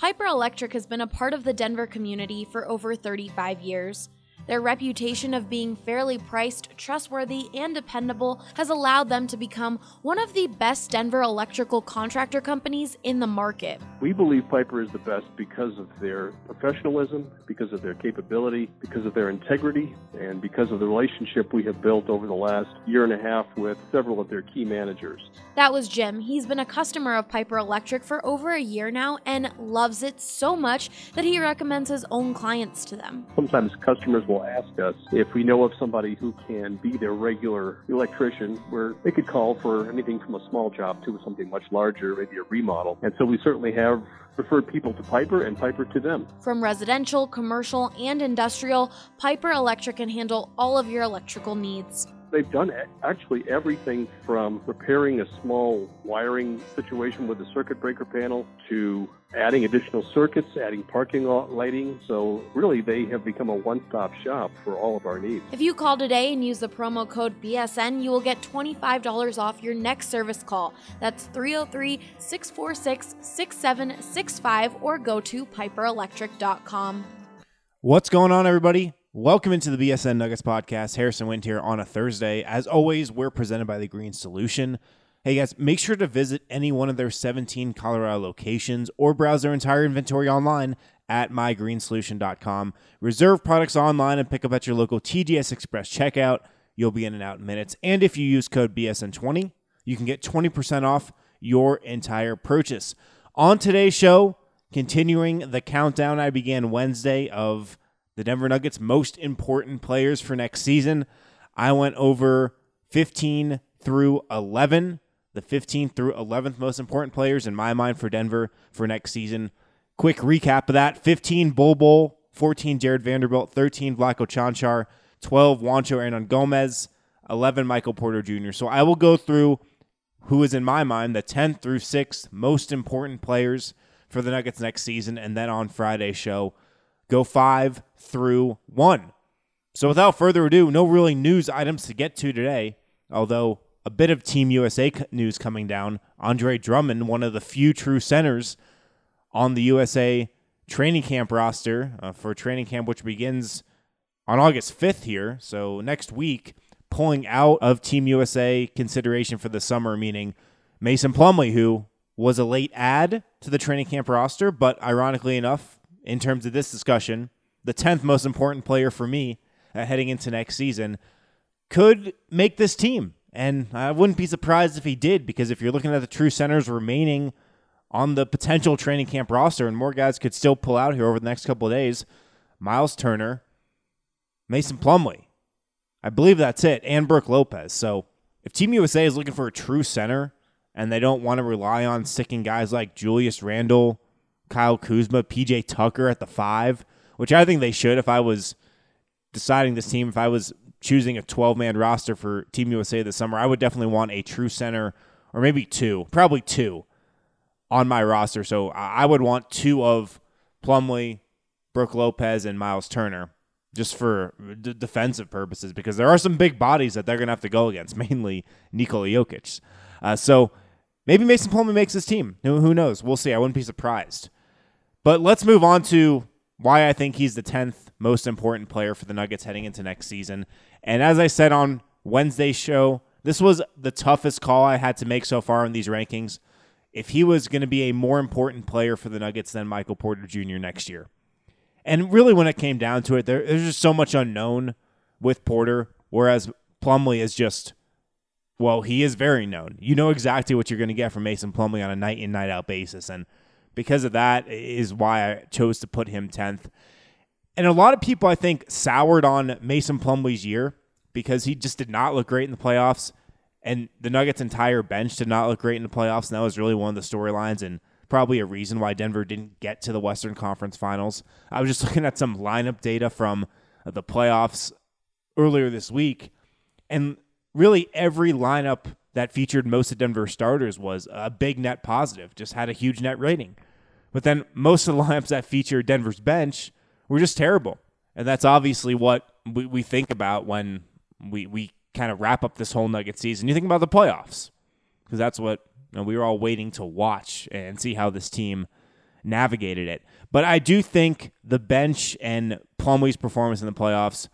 Piper Electric has been a part of the Denver community for over 35 years. Their reputation of being fairly priced, trustworthy, and dependable has allowed them to become one of the best Denver electrical contractor companies in the market. We believe Piper is the best because of their professionalism, because of their capability, because of their integrity, and because of the relationship we have built over the last year and a half with several of their key managers. That was Jim. He's been a customer of Piper Electric for over a year now and loves it so much that he recommends his own clients to them. Sometimes customers will ask us if we know of somebody who can be their regular electrician, where they could call for anything from a small job to something much larger, maybe a remodel. And so we certainly have referred people to Piper and Piper to them. From residential, commercial, and industrial, Piper Electric can handle all of your electrical needs. They've done actually everything from repairing a small wiring situation with a circuit breaker panel to adding additional circuits, adding parking lot lighting. So really, they have become a one-stop shop for all of our needs. If you call today and use the promo code BSN, you will get $25 off your next service call. That's 303-646-6765 or go to piperelectric.com. What's going on, everybody? Welcome into the BSN Nuggets podcast. Harrison Wind here on a Thursday. As always, we're presented by The Green Solution. Hey guys, make sure to visit any one of their 17 Colorado locations or browse their entire inventory online at mygreensolution.com. Reserve products online and pick up at your local TGS Express checkout. You'll be in and out in minutes. And if you use code BSN20, you can get 20% off your entire purchase. On today's show, continuing the countdown I began Wednesday of the Denver Nuggets' most important players for next season. I went over 15 through 11, the 15th through 11th most important players in my mind for Denver for next season. Quick recap of that: 15 Bol, 14 Jared Vanderbilt, 13 Vlatko Cancar, 12 Juancho Hernangomez, 11 Michael Porter Jr. So I will go through who is in my mind the 10th through 6th most important players for the Nuggets next season, and then on Friday's show, go 5 through 1. So without further ado, no really news items to get to today, although a bit of Team USA news coming down. Andre Drummond, one of the few true centers on the USA training camp roster for training camp, which begins on August 5th here, so next week, pulling out of Team USA consideration for the summer, meaning Mason Plumlee, who was a late add to the training camp roster, but ironically enough, in terms of this discussion, the 10th most important player for me heading into next season could make this team. And I wouldn't be surprised if he did, because if you're looking at the true centers remaining on the potential training camp roster, and more guys could still pull out here over the next couple of days, Miles Turner, Mason Plumlee, I believe that's it, and Brook Lopez. So if Team USA is looking for a true center and they don't want to rely on sticking guys like Julius Randle, Kyle Kuzma, PJ Tucker at the 5, which I think they should. If I was deciding this team, if I was choosing a 12-man roster for Team USA this summer, I would definitely want a true center, or maybe probably two on my roster. So I would want 2 of Plumlee, Brook Lopez, and Miles Turner, just for defensive purposes, because there are some big bodies that they're going to have to go against, mainly Nikola Jokic. So maybe Mason Plumlee makes this team. Who knows? We'll see. I wouldn't be surprised. But let's move on to why I think he's the 10th most important player for the Nuggets heading into next season. And as I said on Wednesday's show, this was the toughest call I had to make so far in these rankings. If he was going to be a more important player for the Nuggets than Michael Porter Jr. next year. And really, when it came down to it, there's just so much unknown with Porter, whereas Plumlee is just, well, he is very known. You know exactly what you're going to get from Mason Plumlee on a night-in, night-out basis, and because of that is why I chose to put him 10th. And a lot of people, I think, soured on Mason Plumlee's year because he just did not look great in the playoffs, and the Nuggets' entire bench did not look great in the playoffs, and that was really one of the storylines and probably a reason why Denver didn't get to the Western Conference Finals. I was just looking at some lineup data from the playoffs earlier this week, and really every lineup that featured most of Denver's starters was a big net positive, just had a huge net rating. But then most of the lineups that featured Denver's bench were just terrible. And that's obviously what we think about when we kind of wrap up this whole Nugget season. You think about the playoffs, because that's what we were all waiting to watch and see how this team navigated it. But I do think the bench and Plumlee's performance in the playoffs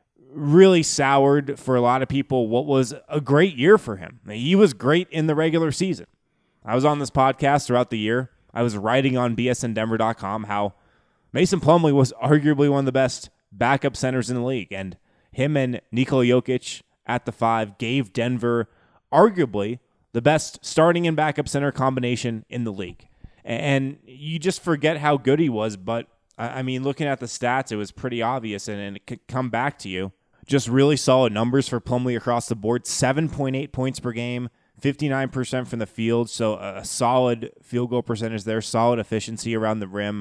really soured for a lot of people what was a great year for him. He was great in the regular season. I was on this podcast throughout the year. I was writing on bsndenver.com how Mason Plumlee was arguably one of the best backup centers in the league, and him and Nikola Jokic at the 5 gave Denver arguably the best starting and backup center combination in the league. And you just forget how good he was, but I mean, looking at the stats, it was pretty obvious, and it could come back to you. Just really solid numbers for Plumlee across the board. 7.8 points per game, 59% from the field, so a solid field goal percentage there, solid efficiency around the rim.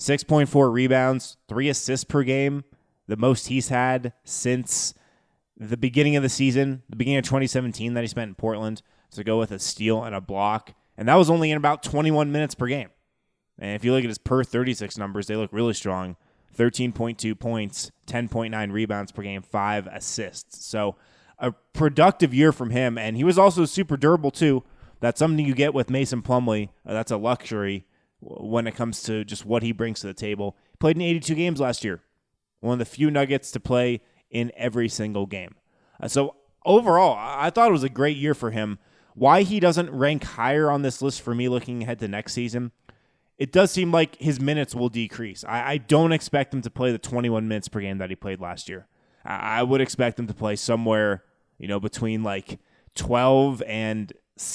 6.4 rebounds, 3 assists per game, the most he's had since the beginning of the season, the beginning of 2017 that he spent in Portland, to go with a steal and a block. And that was only in about 21 minutes per game. And if you look at his per 36 numbers, they look really strong. 13.2 points, 10.9 rebounds per game, 5 assists. So a productive year from him. And he was also super durable, too. That's something you get with Mason Plumlee. That's a luxury when it comes to just what he brings to the table. He played in 82 games last year. One of the few Nuggets to play in every single game. So overall, I thought it was a great year for him. Why he doesn't rank higher on this list for me looking ahead to next season, it does seem like his minutes will decrease. I don't expect him to play the 21 minutes per game that he played last year. I would expect him to play somewhere, between like 12 and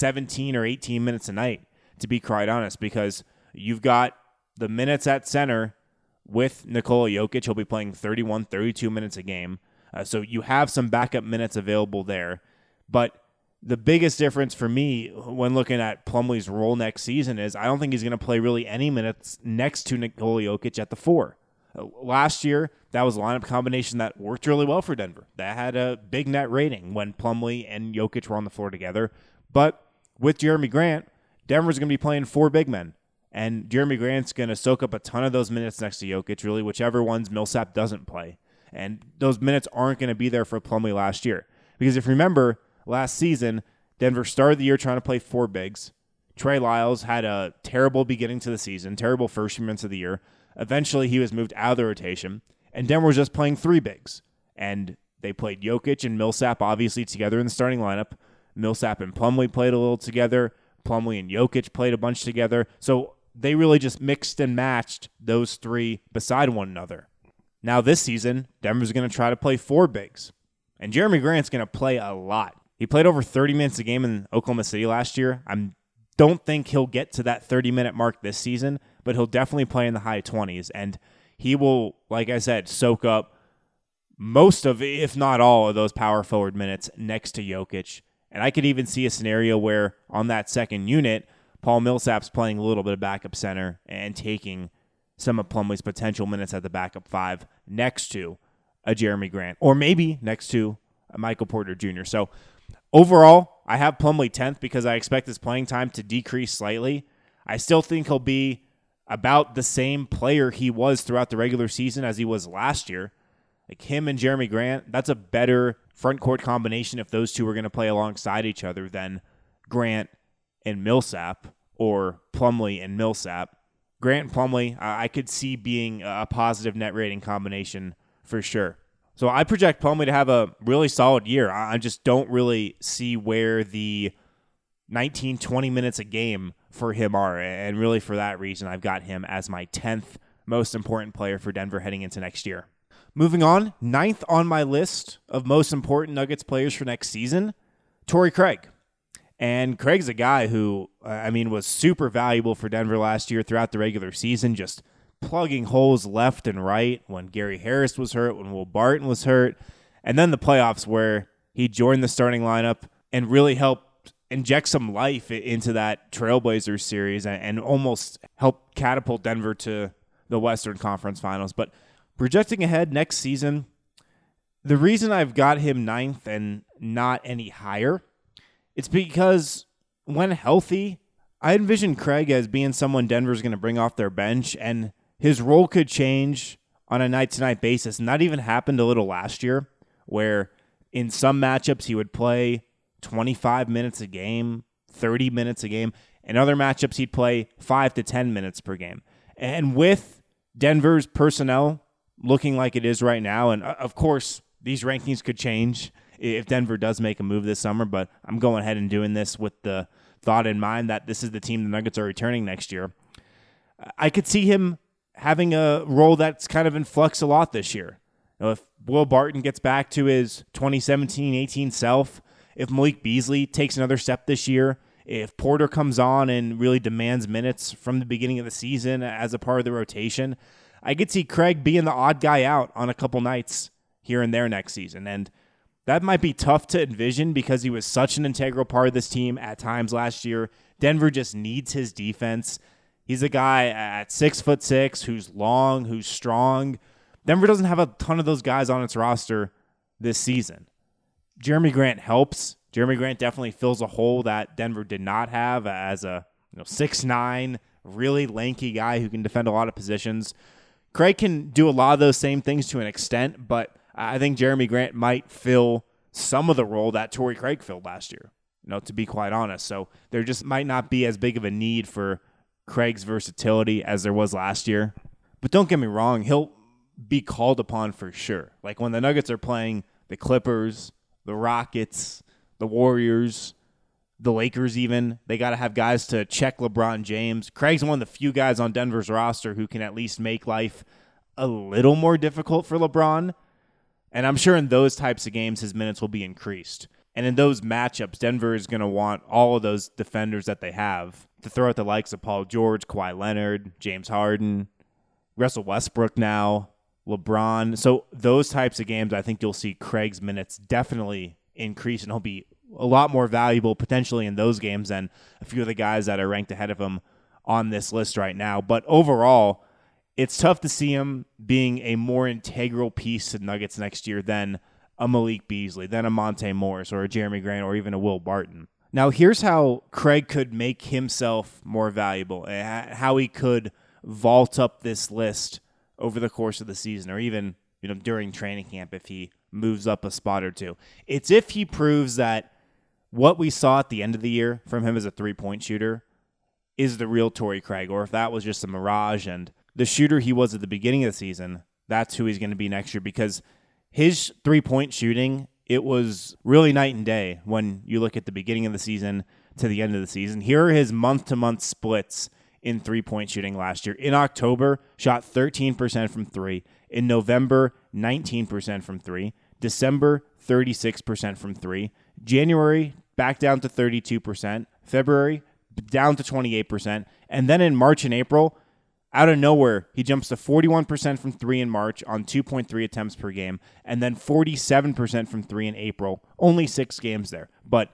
17 or 18 minutes a night, to be quite honest, because you've got the minutes at center with Nikola Jokic. He'll be playing 31, 32 minutes a game. So you have some backup minutes available there. But the biggest difference for me when looking at Plumlee's role next season is I don't think he's going to play really any minutes next to Nikola Jokic at the 4. Last year, that was a lineup combination that worked really well for Denver. That had a big net rating when Plumlee and Jokic were on the floor together. But with Jeremy Grant, Denver's going to be playing 4 big men. And Jeremy Grant's going to soak up a ton of those minutes next to Jokic, really, whichever ones Millsap doesn't play. And those minutes aren't going to be there for Plumlee last year. Because if you remember, last season, Denver started the year trying to play 4 bigs. Trey Lyles had a terrible beginning to the season, terrible first few months of the year. Eventually, he was moved out of the rotation, and Denver was just playing 3 bigs. And they played Jokic and Millsap, obviously, together in the starting lineup. Millsap and Plumlee played a little together. Plumlee and Jokic played a bunch together. So they really just mixed and matched those 3 beside one another. Now this season, Denver's going to try to play 4 bigs. And Jeremy Grant's going to play a lot. He played over 30 minutes a game in Oklahoma City last year. I don't think he'll get to that 30-minute mark this season, but he'll definitely play in the high 20s. And he will, like I said, soak up most of, if not all, of those power forward minutes next to Jokic. And I could even see a scenario where on that second unit, Paul Millsap's playing a little bit of backup center and taking some of Plumlee's potential minutes at the backup 5 next to a Jeremy Grant, or maybe next to a Michael Porter Jr. So overall, I have Plumlee 10th because I expect his playing time to decrease slightly. I still think he'll be about the same player he was throughout the regular season as he was last year. Like him and Jeremy Grant, that's a better front court combination if those two are going to play alongside each other than Grant and Millsap or Plumlee and Millsap. Grant and Plumlee, I could see being a positive net rating combination for sure. So I project Plumlee to have a really solid year. I just don't really see where the 19, 20 minutes a game for him are. And really for that reason, I've got him as my 10th most important player for Denver heading into next year. Moving on, 9th on my list of most important Nuggets players for next season, Torrey Craig. And Craig's a guy who, was super valuable for Denver last year throughout the regular season, just plugging holes left and right when Gary Harris was hurt, when Will Barton was hurt, and then the playoffs where he joined the starting lineup and really helped inject some life into that Trailblazers series and almost helped catapult Denver to the Western Conference Finals. But projecting ahead next season, the reason I've got him 9th and not any higher, it's because when healthy, I envision Craig as being someone Denver's going to bring off their bench, and his role could change on a night-to-night basis. And that even happened a little last year, where in some matchups he would play 25 minutes a game, 30 minutes a game. In other matchups, he'd play 5 to 10 minutes per game. And with Denver's personnel looking like it is right now, and of course, these rankings could change if Denver does make a move this summer, but I'm going ahead and doing this with the thought in mind that this is the team the Nuggets are returning next year. I could see him having a role that's kind of in flux a lot this year. If Will Barton gets back to his 2017-18 self, if Malik Beasley takes another step this year, if Porter comes on and really demands minutes from the beginning of the season as a part of the rotation, I could see Craig being the odd guy out on a couple nights here and there next season. And that might be tough to envision because he was such an integral part of this team at times last year. Denver just needs his defense. He's a guy at 6'6", who's long, who's strong. Denver doesn't have a ton of those guys on its roster this season. Jeremy Grant helps. Jeremy Grant definitely fills a hole that Denver did not have as a 6'9", really lanky guy who can defend a lot of positions. Craig can do a lot of those same things to an extent, but I think Jeremy Grant might fill some of the role that Torrey Craig filled last year, to be quite honest. So there just might not be as big of a need for Craig's versatility as there was last year. But don't get me wrong, he'll be called upon for sure. Like when the Nuggets are playing the Clippers, the Rockets, the Warriors, the Lakers even, they got to have guys to check LeBron James. Craig's one of the few guys on Denver's roster who can at least make life a little more difficult for LeBron. And I'm sure in those types of games, his minutes will be increased. And in those matchups, Denver is going to want all of those defenders that they have to throw at the likes of Paul George, Kawhi Leonard, James Harden, Russell Westbrook now, LeBron. So those types of games, I think you'll see Craig's minutes definitely increase, and he'll be a lot more valuable potentially in those games than a few of the guys that are ranked ahead of him on this list right now. But overall, it's tough to see him being a more integral piece to the Nuggets next year than a Malik Beasley, than a Monte Morris or a Jeremy Grant or even a Will Barton. Now, here's how Craig could make himself more valuable, how he could vault up this list over the course of the season or even during training camp if he moves up a spot or two. It's if he proves that what we saw at the end of the year from him as a three-point shooter is the real Torrey Craig, or if that was just a mirage and the shooter he was at the beginning of the season, that's who he's going to be next year, because his three-point shooting, it was really night and day when you look at the beginning of the season to the end of the season. Here are his month-to-month splits in three-point shooting last year. In October, shot 13% from three. In November, 19% from three. December, 36% from three. January, back down to 32%. February, down to 28%. And then in March and April, out of nowhere, he jumps to 41% from three in March on 2.3 attempts per game, and then 47% from three in April. Only 6 games there. But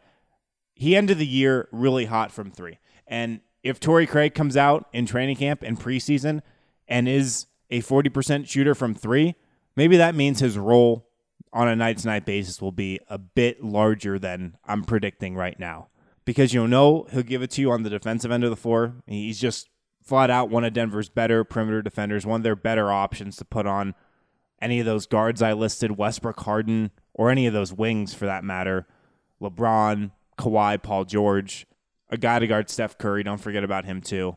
he ended the year really hot from three. And if Torrey Craig comes out in training camp and preseason and is a 40% shooter from three, maybe that means his role on a night-to-night basis will be a bit larger than I'm predicting right now. Because he'll give it to you on the defensive end of the floor. He's just flat out one of Denver's better perimeter defenders, one of their better options to put on any of those guards I listed, Westbrook, Harden, or any of those wings for that matter, LeBron, Kawhi, Paul George, a guy to guard Steph Curry, don't forget about him too.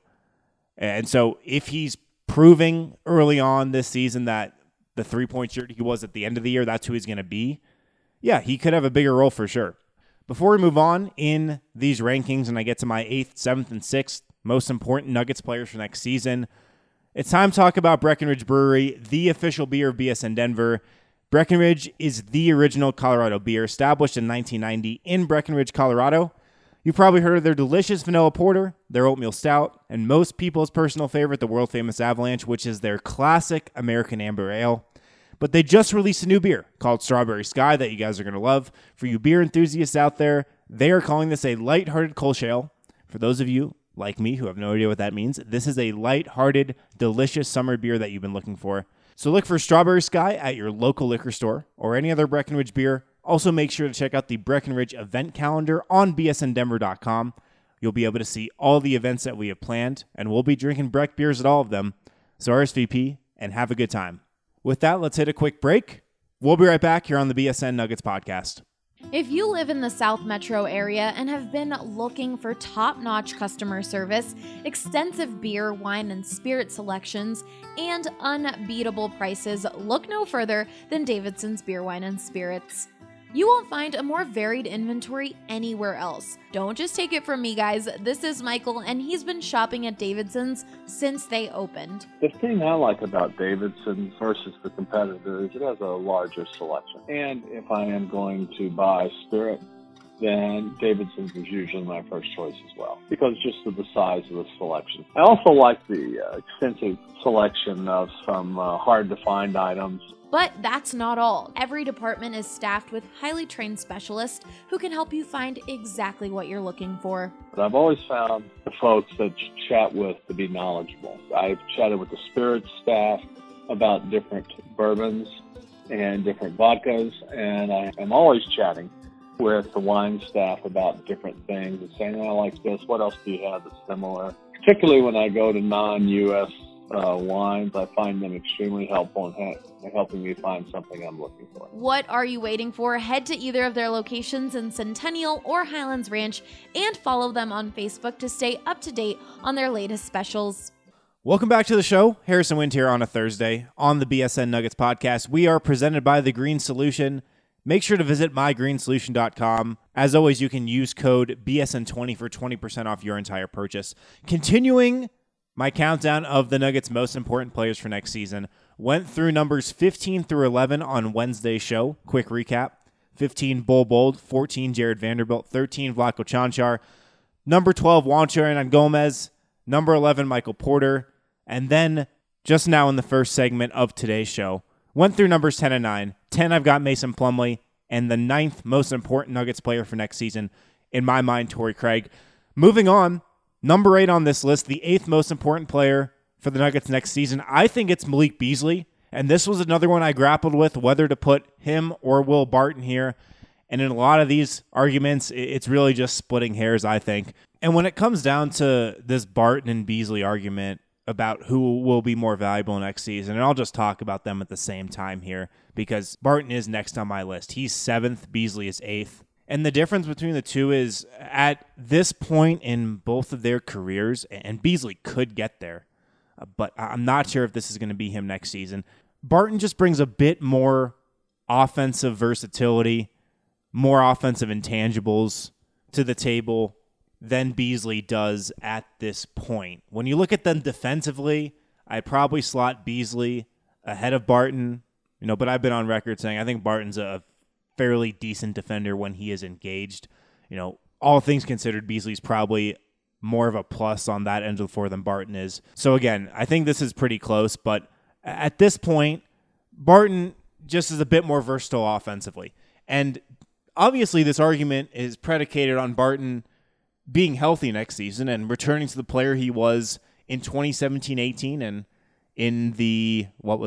And so if he's proving early on this season that the three-point shooter he was at the end of the year, that's who he's going to be, yeah, he could have a bigger role for sure. Before we move on in these rankings and I get to my 8th, 7th, and 6th most important Nuggets players for next season, it's time to talk about Breckenridge Brewery, the official beer of BSN Denver. Breckenridge is the original Colorado beer, established in 1990 in Breckenridge, Colorado. You've probably heard of their delicious vanilla porter, their oatmeal stout, and most people's personal favorite, the world-famous Avalanche, which is their classic American Amber Ale. But they just released a new beer called Strawberry Sky that you guys are going to love. For you beer enthusiasts out there, they are calling this a lighthearted Kolsch Ale. For those of you like me who have no idea what that means, this is a lighthearted, delicious summer beer that you've been looking for. So look for Strawberry Sky at your local liquor store or any other Breckenridge beer. Also, make sure to check out the Breckenridge event calendar on bsndenver.com. You'll be able to see all the events that we have planned, and we'll be drinking Breck beers at all of them. So RSVP and have a good time. With that, let's hit a quick break. We'll be right back here on the BSN Nuggets podcast. If you live in the South Metro area and have been looking for top-notch customer service, extensive beer, wine, and spirit selections, and unbeatable prices, look no further than Davidson's Beer, Wine, and Spirits. You won't find a more varied inventory anywhere else. Don't just take it from me, guys. This is Michael, and he's been shopping at Davidson's since they opened. The thing I like about Davidson's versus the competitor is it has a larger selection. And if I am going to buy spirit, then Davidson's is usually my first choice as well, because just of the size of the selection. I also like the extensive selection of some hard-to-find items. But that's not all. Every department is staffed with highly trained specialists who can help you find exactly what you're looking for. But I've always found the folks that you chat with to be knowledgeable. I've chatted with the spirits staff about different bourbons and different vodkas, and I am always chatting with the wine staff about different things and saying, I like this, what else do you have that's similar? Particularly when I go to non-U.S. wines, I find them extremely helpful in helping me find something I'm looking for. What are you waiting for? Head to either of their locations in Centennial or Highlands Ranch and follow them on Facebook to stay up to date on their latest specials. Welcome back to the show. Harrison Wind here on a Thursday on the BSN Nuggets podcast. We are presented by The Green Solution. Make sure to visit mygreensolution.com. As always, you can use code BSN20 for 20% off your entire purchase. Continuing my countdown of the Nuggets' most important players for next season. Went through numbers 15 through 11 on Wednesday's show. Quick recap. 15, Bol Bol. 14, Jared Vanderbilt. 13, Vlatko Čančar. Number 12, Juancho Hernangomez. Number 11, Michael Porter. And then, just now in the first segment of today's show, went through numbers 10 and 9. 10, I've got Mason Plumlee. And the 9th most important Nuggets player for next season, in my mind, Torrey Craig. Moving on. Number 8 on this list, the 8th most important player for the Nuggets next season, I think it's Malik Beasley. And this was another one I grappled with, whether to put him or Will Barton here. And in a lot of these arguments, it's really just splitting hairs, I think. And when it comes down to this Barton and Beasley argument about who will be more valuable next season, and I'll just talk about them at the same time here, because Barton is next on my list. He's 7th, Beasley is 8th. And the difference between the two is at this point in both of their careers, and Beasley could get there, but I'm not sure if this is going to be him next season. Barton just brings a bit more offensive versatility, more offensive intangibles to the table than Beasley does at this point. When you look at them defensively, I'd probably slot Beasley ahead of Barton, but I've been on record saying I think Barton's a fairly decent defender when he is engaged. All things considered, Beasley's probably more of a plus on that end of the floor than Barton is. So again, I think this is pretty close, but at this point, Barton just is a bit more versatile offensively. And obviously this argument is predicated on Barton being healthy next season and returning to the player he was in 2017-18 and in the,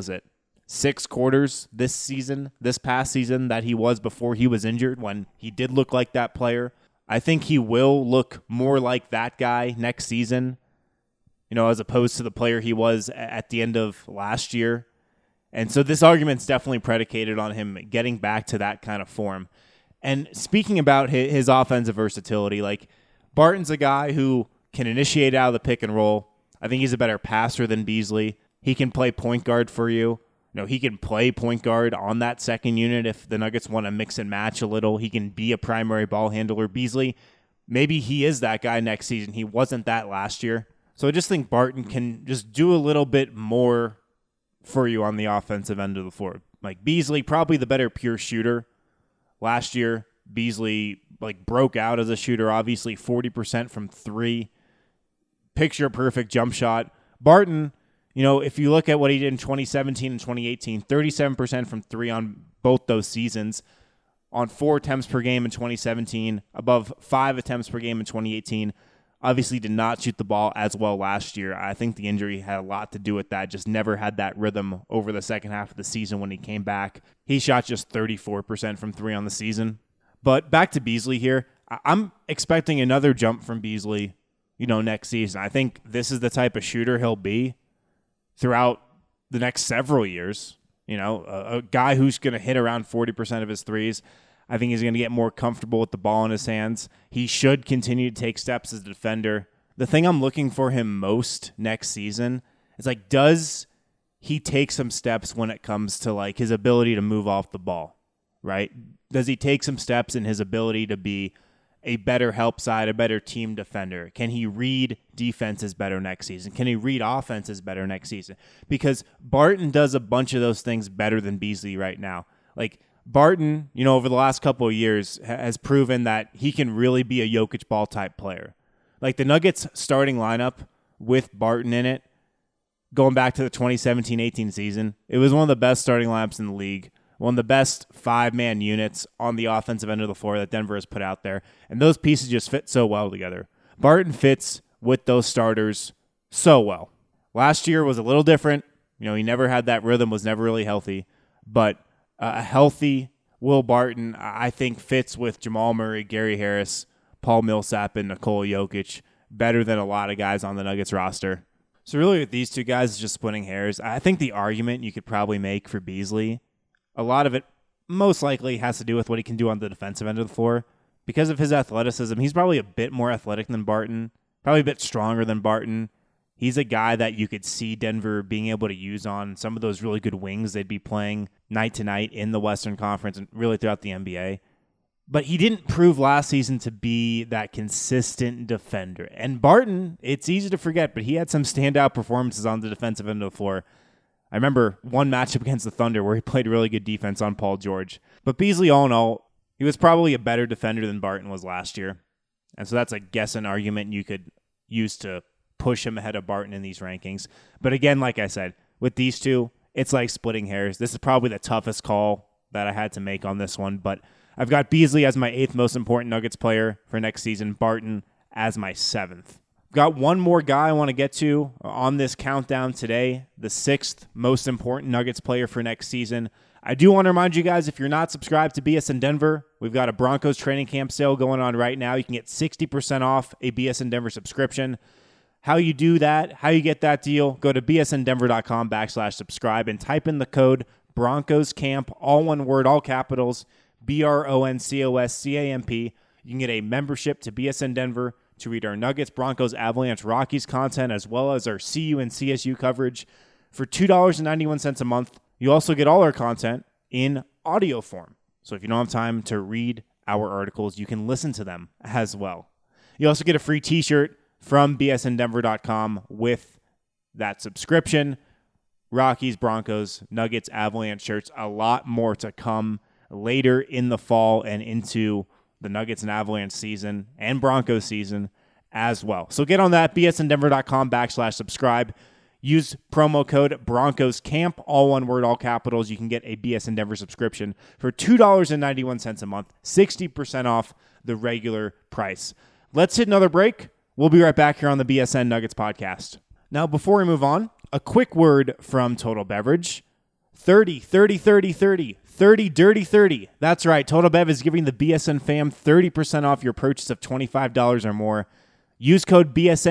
6 quarters this past season that he was before he was injured, when he did look like that player. I think he will look more like that guy next season, as opposed to the player he was at the end of last year. And so this argument's definitely predicated on him getting back to that kind of form. And speaking about his offensive versatility, Barton's a guy who can initiate out of the pick and roll. I think he's a better passer than Beasley. He can play point guard for you. He can play point guard on that second unit if the Nuggets want to mix and match a little. He can be a primary ball handler. Beasley, maybe he is that guy next season. He wasn't that last year. So I just think Barton can just do a little bit more for you on the offensive end of the floor. Beasley, probably the better pure shooter. Last year, Beasley broke out as a shooter, obviously 40% from 3. Picture perfect jump shot. Barton, if you look at what he did in 2017 and 2018, 37% from 3 on both those seasons, on 4 attempts per game in 2017, above 5 attempts per game in 2018. Obviously did not shoot the ball as well last year. I think the injury had a lot to do with that. Just never had that rhythm over the second half of the season when he came back. He shot just 34% from 3 on the season. But back to Beasley here. I'm expecting another jump from Beasley, next season. I think this is the type of shooter he'll be throughout the next several years. A guy who's going to hit around 40% of his threes. I think he's going to get more comfortable with the ball in his hands. He should continue to take steps as a defender. The thing I'm looking for him most next season is, like, does he take some steps when it comes to, like, his ability to move off the ball, right? Does he take some steps in his ability to be a better help side, a better team defender? Can he read defenses better next season? Can he read offenses better next season? Because Barton does a bunch of those things better than Beasley right now. Like, Barton, over the last couple of years has proven that he can really be a Jokic ball type player. Like, the Nuggets starting lineup with Barton in it, going back to the 2017-18 season, it was one of the best starting lineups in the league, one of the best 5-man units on the offensive end of the floor that Denver has put out there. And those pieces just fit so well together. Barton fits with those starters so well. Last year was a little different. He never had that rhythm, was never really healthy, but a healthy Will Barton, I think, fits with Jamal Murray, Gary Harris, Paul Millsap, and Nikola Jokic better than a lot of guys on the Nuggets roster. So really with these two guys, it's just splitting hairs. I think the argument you could probably make for Beasley, a lot of it most likely has to do with what he can do on the defensive end of the floor. Because of his athleticism, he's probably a bit more athletic than Barton, probably a bit stronger than Barton. He's a guy that you could see Denver being able to use on some of those really good wings they'd be playing night to night in the Western Conference and really throughout the NBA. But he didn't prove last season to be that consistent defender. And Barton, it's easy to forget, but he had some standout performances on the defensive end of the floor. I remember one matchup against the Thunder where he played really good defense on Paul George. But Beasley, all in all, he was probably a better defender than Barton was last year. And so that's, I guess, an argument you could use to push him ahead of Barton in these rankings. But again, like I said, with these two, it's like splitting hairs. This is probably the toughest call that I had to make on this one. But I've got Beasley as my 8th most important Nuggets player for next season, Barton as my 7th. Got one more guy I want to get to on this countdown today, the 6th most important Nuggets player for next season. I do want to remind you guys, if you're not subscribed to BSN Denver, we've got a Broncos training camp sale going on right now. You can get 60% off a BSN Denver subscription. How you do that, how you get that deal, go to bsndenver.com/subscribe and type in the code BroncosCamp, all one word, all capitals, BRONCOSCAMP. You can get a membership to BSN Denver to read our Nuggets, Broncos, Avalanche, Rockies content, as well as our CU and CSU coverage for $2.91 a month. You also get all our content in audio form. So if you don't have time to read our articles, you can listen to them as well. You also get a free t-shirt from bsndenver.com with that subscription. Rockies, Broncos, Nuggets, Avalanche shirts, a lot more to come later in the fall and into the Nuggets and Avalanche season and Broncos season as well. So get on that, bsndenver.com/subscribe. Use promo code BroncosCamp, all one word, all capitals. You can get a BSN Denver subscription for $2.91 a month, 60% off the regular price. Let's hit another break. We'll be right back here on the BSN Nuggets podcast. Now, before we move on, a quick word from Total Beverage. 30, 30, 30, 30. 30 Dirty 30. That's right. Total Bev is giving the BSN fam 30% off your purchase of $25 or more. Use code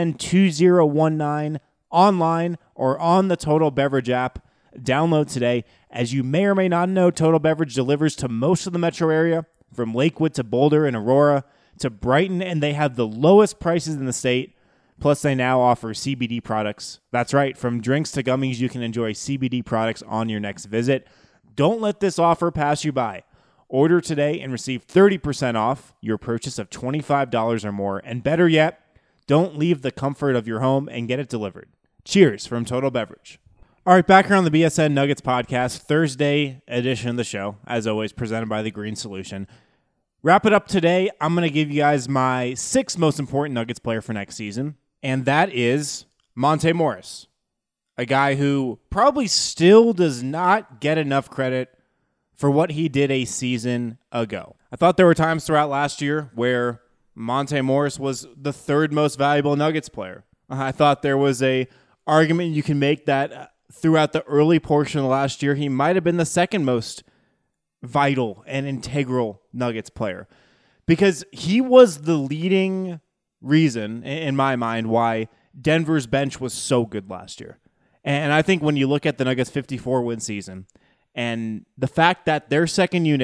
BSN2019 online or on the Total Beverage app. Download today. As you may or may not know, Total Beverage delivers to most of the metro area, from Lakewood to Boulder and Aurora to Brighton, and they have the lowest prices in the state. Plus, they now offer CBD products. That's right. From drinks to gummies, you can enjoy CBD products on your next visit. Don't let this offer pass you by. Order today and receive 30% off your purchase of $25 or more. And better yet, don't leave the comfort of your home and get it delivered. Cheers from Total Beverage. All right, back here on the BSN Nuggets podcast, Thursday edition of the show, as always, presented by The Green Solution. Wrap it up today. I'm going to give you guys my 6th most important Nuggets player for next season, and that is Monte Morris, a guy who probably still does not get enough credit for what he did a season ago. I thought there were times throughout last year where Monte Morris was the 3rd most valuable Nuggets player. I thought there was a argument you can make that throughout the early portion of last year, he might have been the 2nd most vital and integral Nuggets player, because he was the leading reason, in my mind, why Denver's bench was so good last year. And I think when you look at the Nuggets' 54-win season and the fact that their second unit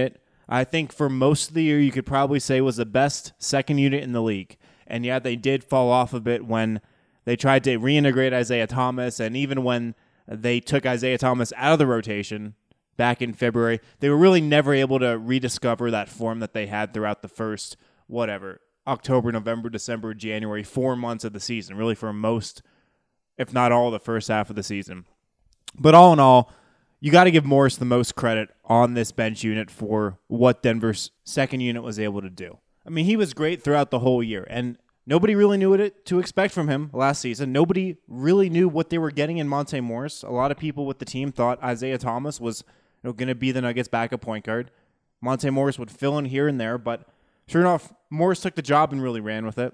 I think for most of the year, you could probably say was the best second unit in the league. And yet they did fall off a bit when they tried to reintegrate Isaiah Thomas, and even when they took Isaiah Thomas out of the rotation back in February, they were really never able to rediscover that form that they had throughout the first, October, November, December, January, 4 months of the season, really for most, if not all, the first half of the season. But all in all, you got to give Morris the most credit on this bench unit for what Denver's second unit was able to do. I mean, he was great throughout the whole year, and nobody really knew what to expect from him last season. Nobody really knew what they were getting in Monte Morris. A lot of people with the team thought Isaiah Thomas was going to be the Nuggets' backup point guard. Monte Morris would fill in here and there, but sure enough, Morris took the job and really ran with it.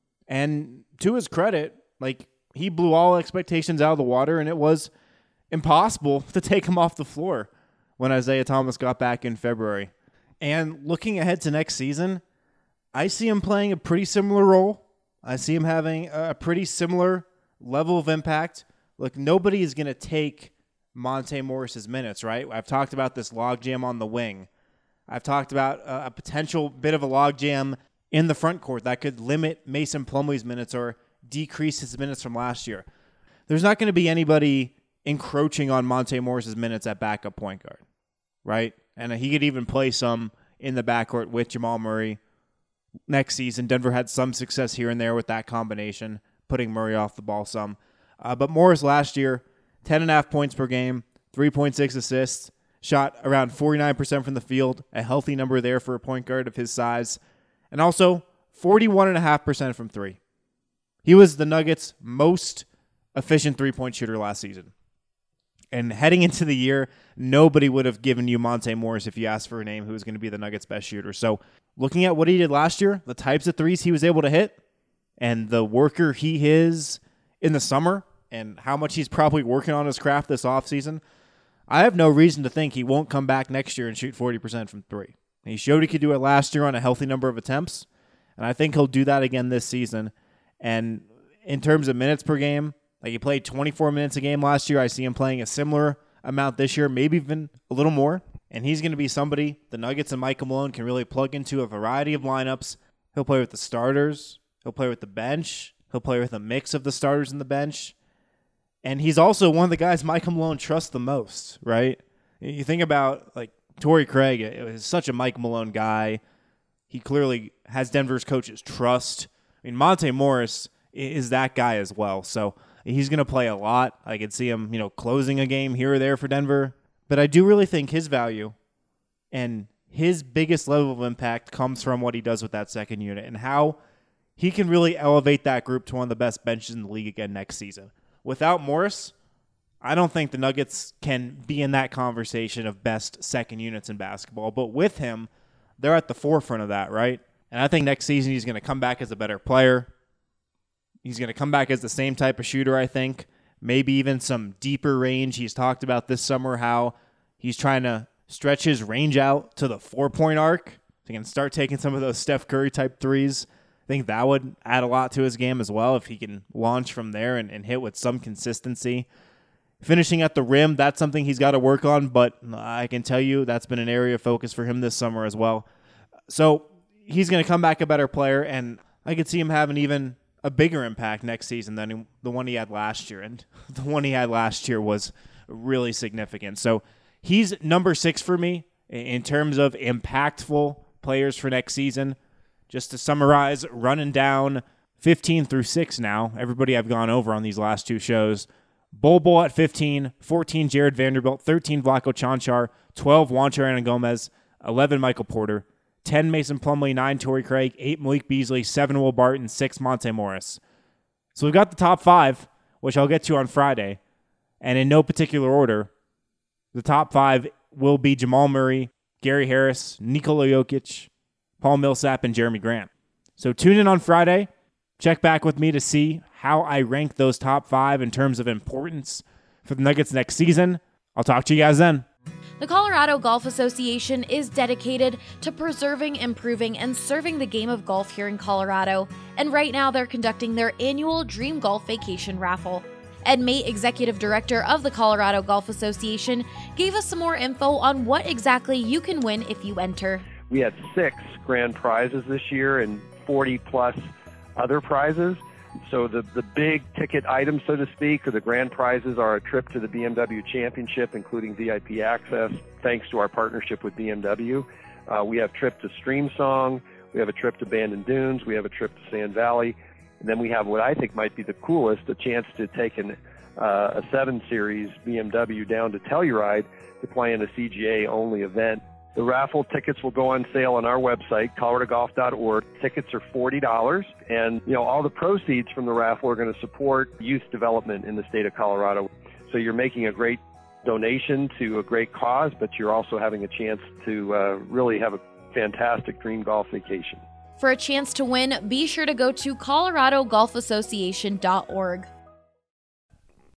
And to his credit, he blew all expectations out of the water, and it was impossible to take him off the floor when Isaiah Thomas got back in February. And looking ahead to next season, I see him playing a pretty similar role. I see him having a pretty similar level of impact. Look, nobody is going to take Monte Morris's minutes, right? I've talked about this logjam on the wing. I've talked about a potential bit of a logjam in the front court that could limit Mason Plumlee's minutes or decrease his minutes from last year. There's not going to be anybody encroaching on Monte Morris's minutes at backup point guard, right? And he could even play some in the backcourt with Jamal Murray. Next season, Denver had some success here and there with that combination, putting Murray off the ball some. But Morris last year, 10.5 points per game, 3.6 assists, shot around 49% from the field, a healthy number there for a point guard of his size, and also 41.5% from three. He was the Nuggets' most efficient three-point shooter last season. And heading into the year, nobody would have given you Monte Morris if you asked for a name who was going to be the Nuggets' best shooter. So looking at what he did last year, the types of threes he was able to hit, and the worker he is in the summer, and how much he's probably working on his craft this offseason, I have no reason to think he won't come back next year and shoot 40% from three. He showed he could do it last year on a healthy number of attempts, and I think he'll do that again this season. And in terms of minutes per game, he played 24 minutes a game last year. I see him playing a similar amount this year, maybe even a little more. And he's going to be somebody the Nuggets and Michael Malone can really plug into a variety of lineups. He'll play with the starters. He'll play with the bench. He'll play with a mix of the starters and the bench. And he's also one of the guys Michael Malone trusts the most, right? You think about Torrey Craig, it was such a Mike Malone guy. He clearly has Denver's coach's trust. I mean, Monte Morris is that guy as well. So he's going to play a lot. I could see him, closing a game here or there for Denver. But I do really think his value and his biggest level of impact comes from what he does with that second unit and how he can really elevate that group to one of the best benches in the league again next season. Without Morris, I don't think the Nuggets can be in that conversation of best second units in basketball. But with him, they're at the forefront of that, right? And I think next season he's going to come back as a better player. He's going to come back as the same type of shooter, I think. Maybe even some deeper range. He's talked about this summer how he's trying to stretch his range out to the 4-point arc. So he can start taking some of those Steph Curry type threes. I think that would add a lot to his game as well if he can launch from there and hit with some consistency. Finishing at the rim, that's something he's got to work on, but I can tell you that's been an area of focus for him this summer as well. So he's going to come back a better player, and I could see him having even a bigger impact next season than the one he had last year. And the one he had last year was really significant. So he's number 6 for me in terms of impactful players for next season. Just to summarize, running down 15 through 6 now. Everybody I've gone over on these last 2 shows. Bol at 15, 14 Jared Vanderbilt, 13 Vlatko Čančar, 12 Juancho Hernangomez, 11 Michael Porter, 10 Mason Plumlee, 9 Torrey Craig, 8 Malik Beasley, 7 Will Barton, 6 Monte Morris. So we've got the top 5, which I'll get to on Friday. And in no particular order, the top 5 will be Jamal Murray, Gary Harris, Nikola Jokic, Paul Millsap, and Jeremy Grant. So tune in on Friday. Check back with me to see how I rank those top 5 in terms of importance for the Nuggets next season. I'll talk to you guys then. The Colorado Golf Association is dedicated to preserving, improving, and serving the game of golf here in Colorado. And right now they're conducting their annual Dream Golf Vacation Raffle. Ed Mate, Executive Director of the Colorado Golf Association, gave us some more info on what exactly you can win if you enter. We had 6 grand prizes this year and 40 plus other prizes. So the big ticket items, so to speak, or the grand prizes are a trip to the BMW Championship, including VIP access, thanks to our partnership with BMW. We have a trip to Streamsong. We have a trip to Bandon Dunes. We have a trip to Sand Valley. And then we have what I think might be the coolest, a chance to take a 7 Series BMW down to Telluride to play in a CGA-only event. The raffle tickets will go on sale on our website, coloradogolf.org. Tickets are $40, and all the proceeds from the raffle are going to support youth development in the state of Colorado. So you're making a great donation to a great cause, but you're also having a chance to really have a fantastic dream golf vacation. For a chance to win, be sure to go to coloradogolfassociation.org.